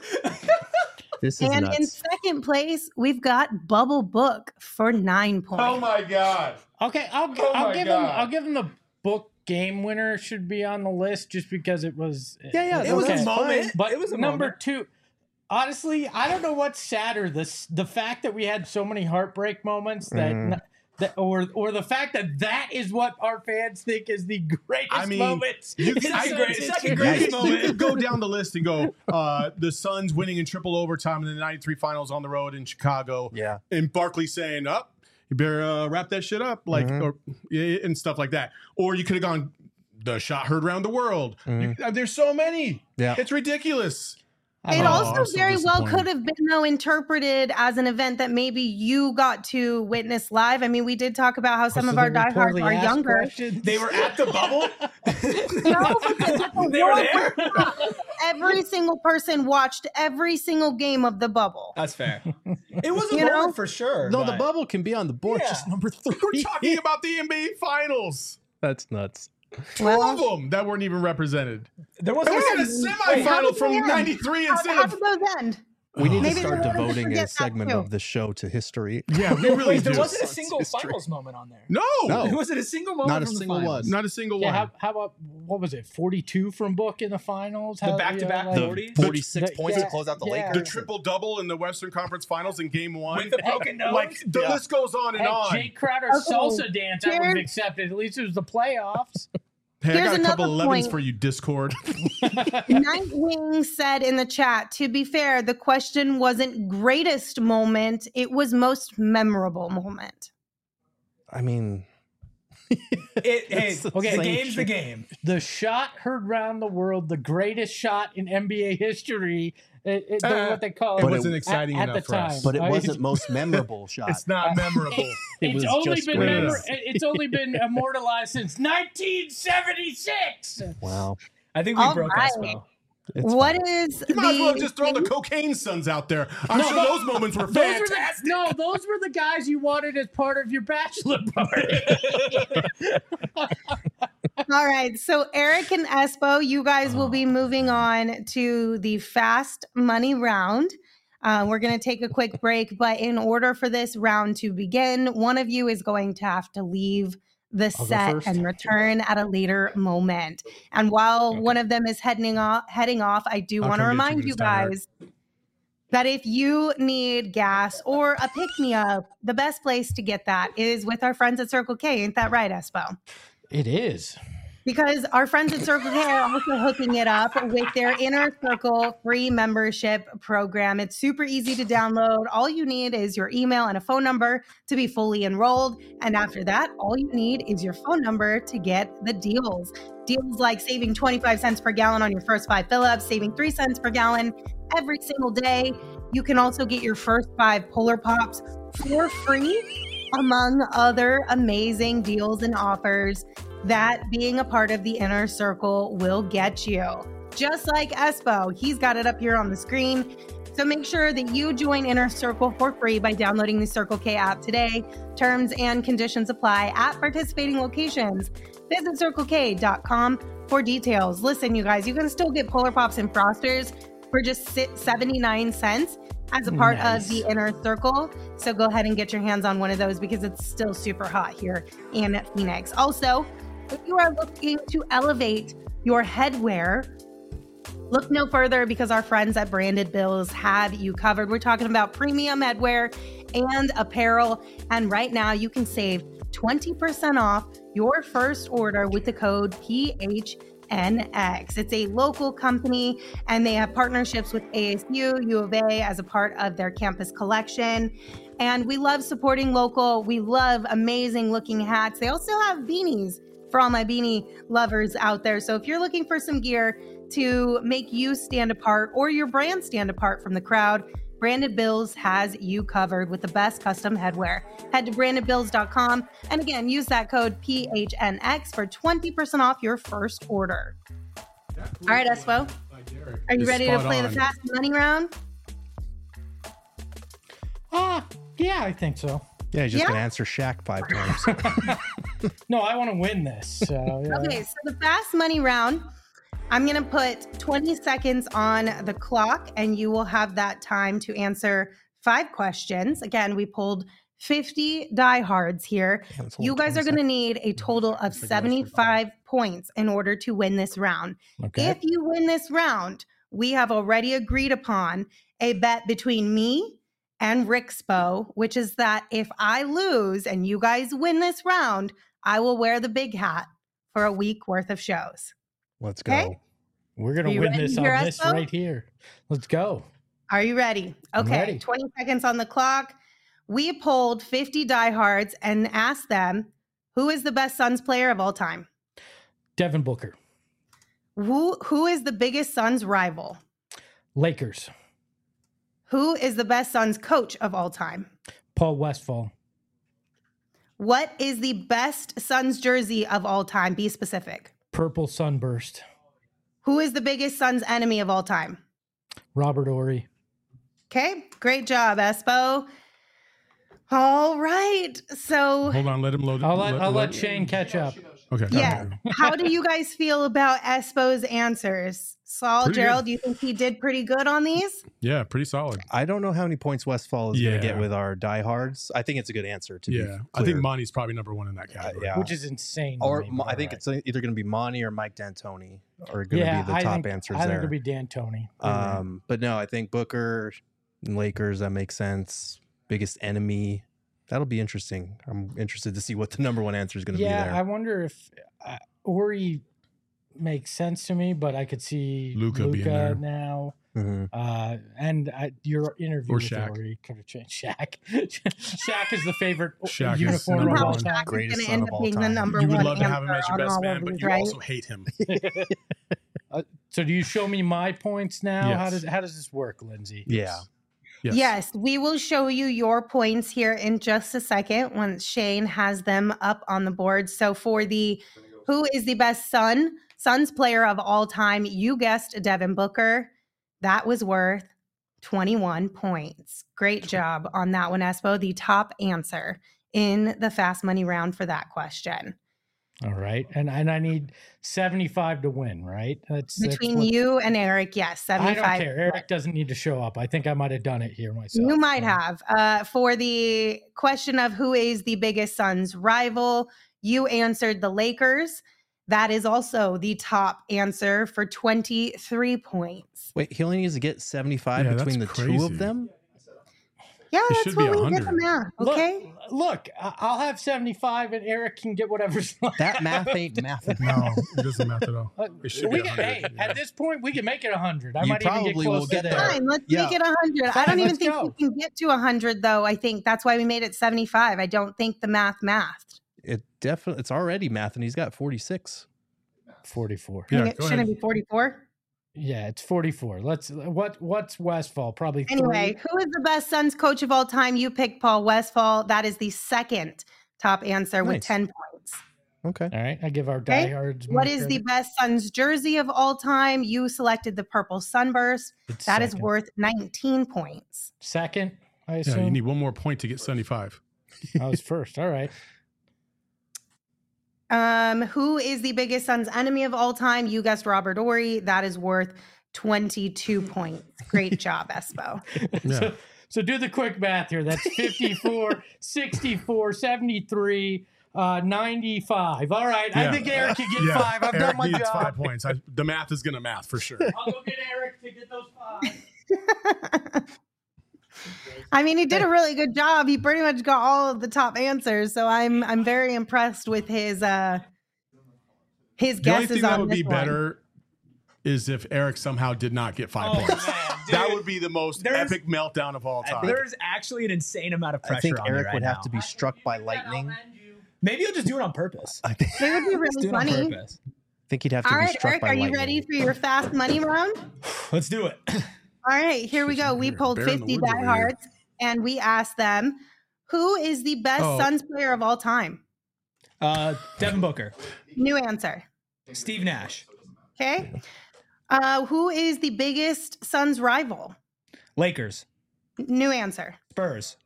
This is And in nuts. second place, we've got Bubble Book for nine points. Oh my god! Okay, I'll gi- Oh I'll my give God. him I'll give him the book game winner should be on the list just because it was Yeah, yeah, it It was okay. a moment. But it was a number moment. two, honestly, I don't know what's sadder: this the fact that we had so many heartbreak moments that, Mhm. n- that or or the fact that that is what our fans think is the greatest I mean, moments. You in can, I, the great- history. second you greatest can- moment. you can go down the list and go, uh, the Suns winning in triple overtime in the ninety-three finals on the road in Chicago, Yeah. and Barkley saying, "Up, you better uh, wrap that shit up," like Mhm. or yeah, and stuff like that. Or you could have gone, the shot heard around the world. Mhm. You- uh, there's so many. Yeah. It's ridiculous. I It don't know. also I'm so very well disappointed. could have been, though, interpreted as an event that maybe you got to witness live. I mean, we did talk about how some So of they our were diehards poorly are asked younger. questions? They were at the bubble. No, but the- the They were world there? was- Every single person watched every single game of the bubble. That's fair. It was a You moment know? for sure. No, the but- bubble can be on the board. Yeah. Just number three. We're talking about the N B A finals. That's nuts. Two Well- of them that weren't even represented. There was And we had a Wait, how semifinal did from they end? ninety-three How, instead how of. did those end? We need Maybe to they start wanted to devoting forget a that segment too. of the show to history. Yeah, we really Wait, do. there wasn't a Suns single history. finals moment on there. No, No. There wasn't a single moment. Not a from the single finals. one. not a single Yeah, one. how, how about what was it? forty-two from Book in the finals. The How- back-to-back yeah, like- The forty? forty-six The- points yeah, to close out the yeah. Lakers. The triple double in the Western Conference Finals in Game One. With the broken nose. Like the Yeah. list goes on and Hey, on. Jake Crowder's Okay, salsa dance I would have here's- accepted. At least it was the playoffs. Hey, I Here's got a couple another elevens point. for you, Discord. Nightwing said in the chat, to be fair, the question wasn't greatest moment, it was most memorable moment. I mean, It, hey, It's the okay, the same game's the shit. game. The shot heard round the world, the greatest shot in N B A history. It, it, Uh, what they call it it. wasn't at- exciting at enough the for us. time. but it I- wasn't most memorable shot. It's not memorable. It it's was only just been great. memor- it's only been immortalized since nineteen seventy-six. Wow. I think we All broke right. Espo. It's What fine. is You might as well the just throw the thing- cocaine sons out there. I'm No, sure no. those moments were Those were the, fantastic. no, those were the guys you wanted as part of your bachelor party. All right. So Eric and Espo, you guys will be moving on to the fast money round. Uh, we're going to take a quick break, but in order for this round to begin, one of you is going to have to leave the I'll go set first. and return at a later moment. And while one of them is heading off, heading off, I do I'll want to come get you remind when you it's time, Eric. guys that if you need gas or a pick me up, the best place to get that is with our friends at Circle K. Ain't that right, Espo? It is. because our friends at Circle K are also hooking it up with their Inner Circle free membership program. It's super easy to download. All you need is your email and a phone number to be fully enrolled. And after that, all you need is your phone number to get the deals. Deals like saving twenty-five cents per gallon on your first five fill-ups, saving three cents per gallon every single day. You can also get your first five Polar Pops for free, among other amazing deals and offers that being a part of the Inner Circle will get you. Just like Espo, he's got it up here on the screen. So make sure that you join Inner Circle for free by downloading the Circle K app today. Terms and conditions apply at participating locations. Visit circle k dot com for details. Listen, you guys, you can still get Polar Pops and Frosters for just seventy-nine cents as a part nice. of the Inner Circle. So go ahead and get your hands on one of those because it's still super hot here in Phoenix. Also, if you are looking to elevate your headwear, look no further because our friends at Branded Bills have you covered. We're talking about premium headwear and apparel. And right now you can save twenty percent off your first order with the code P H N X. It's a local company and they have partnerships with A S U, U of A as a part of their campus collection. And we love supporting local. We love amazing looking hats. They also have beanies for all my beanie lovers out there. So if you're looking for some gear to make you stand apart or your brand stand apart from the crowd, Branded Bills has you covered with the best custom headwear. Head to branded bills dot com and again, use that code P H N X for twenty percent off your first order. All right, Espo, are you ready to play on. the fast money round? Ah, uh, yeah, I think so. Yeah, he's just yeah? gonna answer Shaq five times. No, I want to win this. So, yeah. Okay, so the fast money round, I'm gonna put twenty seconds on the clock, and you will have that time to answer five questions. Again, we pulled fifty diehards here. Yeah, you guys are gonna need a total of seventy-five points in order to win this round. Okay. If you win this round, we have already agreed upon a bet between me and Rixpo, which is that if I lose and you guys win this round, I will wear the big hat for a week worth of shows. Let's go. Okay? We're going to win this on this Espo? right here. Let's go. Are you ready? Okay. Ready. twenty seconds on the clock. We polled fifty diehards and asked them, who is the best Suns player of all time? Devin Booker. Who Who is the biggest Suns rival? Lakers. Who is the best Suns coach of all time? Paul Westphal. What is the best Suns jersey of all time? Be specific. Purple Sunburst. Who is the biggest Suns enemy of all time? Robert Horry. Okay, great job, Espo. All right, so hold on, let him load. I'll let, let I'll let, let Shane catch up. Okay. Yeah. How do you guys feel about Espo's answers? Saul, pretty Gerald, good. Do you think he did pretty good on these? Yeah, pretty solid. I don't know how many points Westphal is yeah. going to get with our diehards. I think it's a good answer. To yeah, I think Monty's probably number one in that category. Uh, yeah. Which is insane. Or me, I think right. it's either going to be Monty or Mike D'Antoni are going to yeah, be the I top think, answers I there. I think it'll be D'Antoni. Um, but no, I think Booker, Lakers, that makes sense. Biggest enemy. That'll be interesting. I'm interested to see what the number one answer is going to yeah, be there. I wonder if uh, Horry makes sense to me, but I could see Luka now. Mm-hmm. Uh, and I, your interview or with Shaq. Horry could have changed. Shaq. Shaq is the favorite Shaq uniform of all time. Greatest son of all time. You would love to have him as your best man, but you right? also hate him. uh, so do you show me my points now? Yes. How does how does this work, Lindsay? Yeah. Yes. yes, we will show you your points here in just a second once Shane has them up on the board. So for the who is the best Sun, Suns player of all time, you guessed Devin Booker. That was worth twenty-one points. Great job on that one, Espo. The top answer in the fast money round for that question. All right. And and I need seventy-five to win, right? That's between that's you and Eric, yes, seventy-five. I don't care. Eric doesn't need to show up. I think I might have done it here myself. You might have. Uh, for the question of who is the biggest Suns rival, you answered the Lakers. That is also the top answer for twenty-three points. Wait, he only needs to get seventy-five yeah, between the crazy. two of them? Yeah, It that's should be what we one did the hundred. math. Okay. Look, look, I- I'll have seventy-five, and Eric can get whatever's left. That math ain't math. No, it doesn't math at all. Uh, It should we be can, one hey, hundred. yeah. at this point, we can make it one hundred. I You might even get probably close will to get there. there. Fine, let's Yeah. make it one hundred. I Fine, don't even let's think go. we can get to one hundred, though. I think that's why we made it seventy-five. I don't think the math mathed. It definitely it's already math, and he's got forty-six. forty-four. Yeah, it go shouldn't ahead. it be forty-four? Yeah, it's forty-four. Let's what what's Westfall? Probably three. Anyway, who is the best Suns coach of all time? You picked Paul Westphal. That is the second top answer with Nice. ten points. Okay. All right, I give our Okay. diehards. What more is the credit. best Suns jersey of all time? You selected the purple sunburst. It's That is second. worth nineteen points. second? I Yeah, assume you need one more point to get seventy-five. I was first. All right. Um, who is the biggest Suns enemy of all time? You guessed Robert Ory. That is worth twenty-two points. Great job, Espo. Yeah. So, so do the quick math here. That's fifty-four, sixty-four, seventy-three, uh, ninety-five. All right. I Yeah. think Eric can get Yeah, five. I've Eric done my needs job. five points. I, the math is going to math for sure. I'll go get Eric to get those five. I mean, he did a really good job. He pretty much got all of the top answers. So I'm I'm very impressed with his uh his The only guesses thing that on would this be one. better is if Eric somehow did not get five Oh, points. man, That dude. would be the most There's- epic meltdown of all time. There's actually an insane amount of pressure I think on me Eric right would now. have to be struck by lightning. Maybe he'll just do it on purpose. I think, It would be Let's do really it on funny. purpose. think he'd have to All be right, struck Eric, by are you lightning. ready for your fast money round? Let's do it. All right, here we go. We You're pulled bear in the fifty woods over here. diehards and we asked them, who is the best Oh. Suns player of all time? Uh, Devin Booker, New answer. Steve Nash, Okay. Uh, who is the biggest Suns rival? Lakers, New answer. Spurs,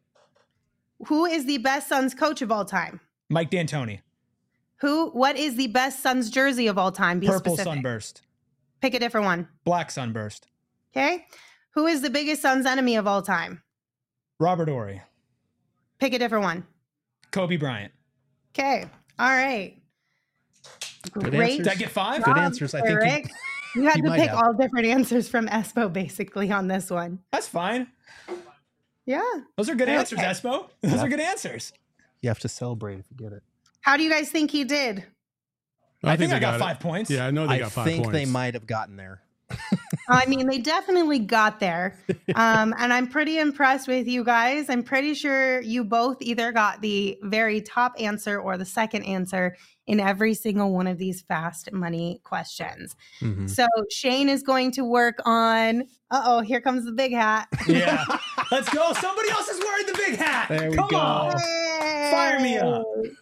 Who is the best Suns coach of all time? Mike D'Antoni, Who? What is the best Suns jersey of all time? Be Purple specific. Sunburst, Pick a different one. Black Sunburst, Okay. Who is the biggest Suns enemy of all time? Robert Ory, Pick a different one. Kobe Bryant. Okay. All right. Good Great. answers. Did I get five? Good job, answers. I think he- Eric. You had he to might pick have. all different answers from Espo basically on this one. That's fine. Yeah. Those are good answers, Okay. Espo. Those Yeah. are good answers. You have to celebrate if you get it. How do you guys think he did? I, think, I they got, it. five points. Yeah, I know they I got five think points. they might have gotten there. I mean, they definitely got there. Um, and I'm pretty impressed with you guys. I'm pretty sure you both either got the very top answer or the second answer in every single one of these fast money questions. Mhm. So Shane is going to work on, uh oh, here comes the big hat. Yeah. Let's go. Somebody else is wearing the big hat. There we Come go. on. Fire me up.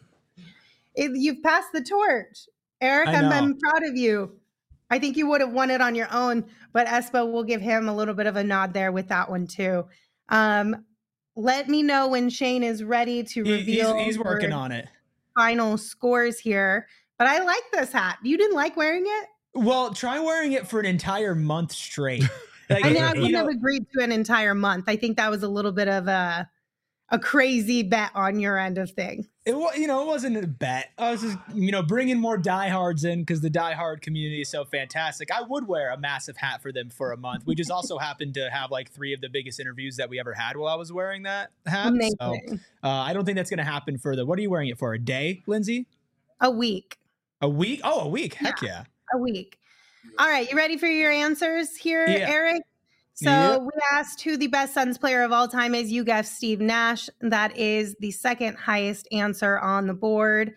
It- you've passed the torch. Eric, I I'm, know. I'm proud of you. I think you would have won it on your own, but Espo will give him a little bit of a nod there with that one too. Um, let me know when Shane is ready to He- reveal. he's, he's working your on it. final scores here. But I like this hat. You didn't like wearing it? Well, try wearing it for an entire month straight. Like, I know I you wouldn't know, have agreed to an entire month. I think that was a little bit of a a crazy bet on your end of things. it wa- you know, it wasn't a bet. I was just, you know, bringing more diehards in because the diehard community is so fantastic. I would wear a massive hat for them for a month. We just also happened to have like three of the biggest interviews that we ever had while I was wearing that hat. Amazing. So uh, I don't think that's going to happen for the. What are you wearing it for? A day, Lindsay? A week. A week? Oh, a week. Heck yeah. A week. All right, you ready for your answers here, Yeah. Eric? So Yep. we asked who the best Suns player of all time is. You guessed Steve Nash. That is the second highest answer on the board.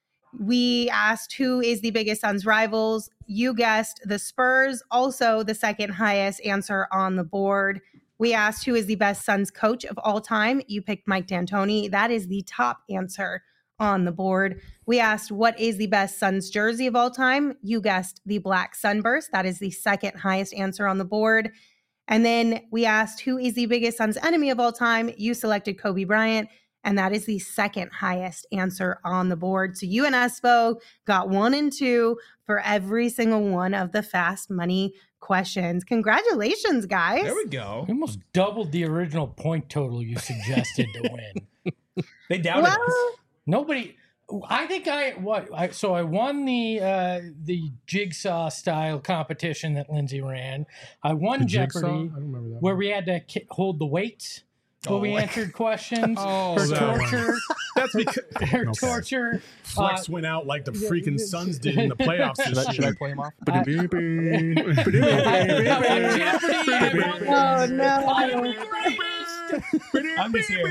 We asked who is the biggest Suns rivals. You guessed the Spurs, also the second highest answer on the board. We asked who is the best Suns coach of all time. You picked Mike D'Antoni. That is the top answer on the board. We asked what is the best Suns jersey of all time. You guessed the Black Sunburst. That is the second highest answer on the board. And then we asked who is the biggest Suns enemy of all time. You selected Kobe Bryant, and that is the second highest answer on the board. So you and Espo got one and two for every single one of the fast money questions. Congratulations, guys. There we go. We almost doubled the original point total you suggested to win. They doubted us. Well, Nobody. I think I what I so I won the uh, the jigsaw style competition that Lindsay ran. I won The jigsaw? Jeopardy I don't remember that. where one. we had to ki- hold the weights. Will we Oh. answered questions Oh, for that one. torture? That's because For Okay. torture. Flex Uh, went out like the freaking Suns did in the playoffs this Should I, should I year. play him off? I- Oh no. I'm just here.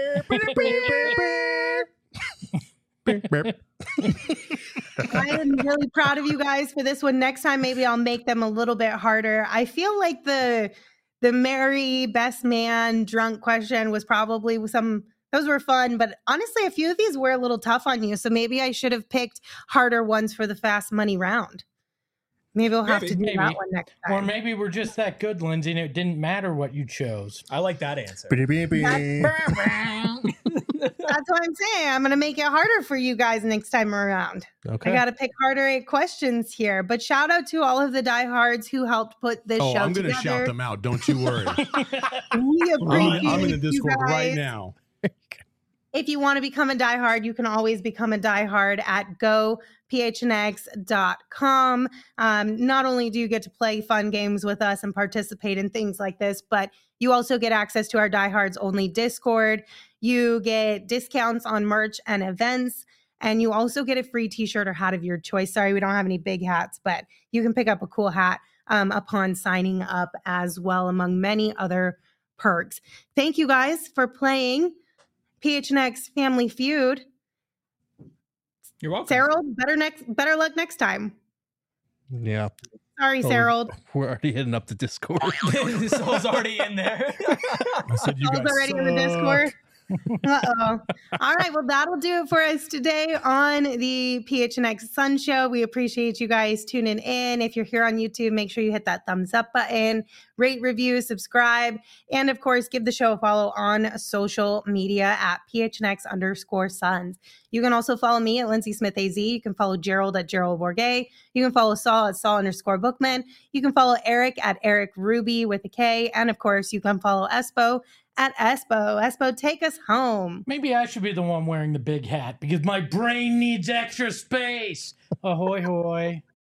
I am really proud of you guys for this one. Next time, maybe I'll make them a little bit harder. I feel like the the Mary best man drunk question was probably some. Those were fun, but honestly, a few of these were a little tough on you. So maybe I should have picked harder ones for the fast money round. Maybe we'll have Maybe, to do maybe. that one next Or time. maybe we're just that good, Lindsay, and it didn't matter what you chose. I like that answer. That's what I'm saying. I'm going to make it harder for you guys next time around. Okay. I got to pick harder questions here. But shout out to all of the diehards who helped put this Oh, show I'm gonna together. shout them out. Don't you worry. We I'm, appreciate I'm in the you Discord right guys. now. If you want to become a diehard, you can always become a diehard at go p h n x dot com. Um, not only do you get to play fun games with us and participate in things like this, but you also get access to our diehards only Discord. You get discounts on merch and events, and you also get a free t-shirt or hat of your choice. Sorry, we don't have any big hats, but you can pick up a cool hat um, upon signing up as well, among many other perks. Thank you guys for playing P H N X Family Feud. You're welcome. Sarah, better next, better luck next time. Yeah. Sorry, Oh, Sarah. We're already hitting up the Discord. Soul's already in there. I said you All's guys already in the suck. Discord. Uh-oh. All right. Well, that'll do it for us today on the P H N X Sun Show. We appreciate you guys tuning in. If you're here on YouTube, make sure you hit that thumbs up button, rate, review, subscribe, and of course, give the show a follow on social media at P H N X underscore Suns. You can also follow me at Lindsay Smith A Z. You can follow Gerald at Gerald Bourget. You can follow Saul at Saul underscore Bookman. You can follow Eric at Eric Ruby with a K. And of course, you can follow Espo at Espo. Espo, take us home. Maybe I should be the one wearing the big hat because my brain needs extra space. Ahoy, hoy.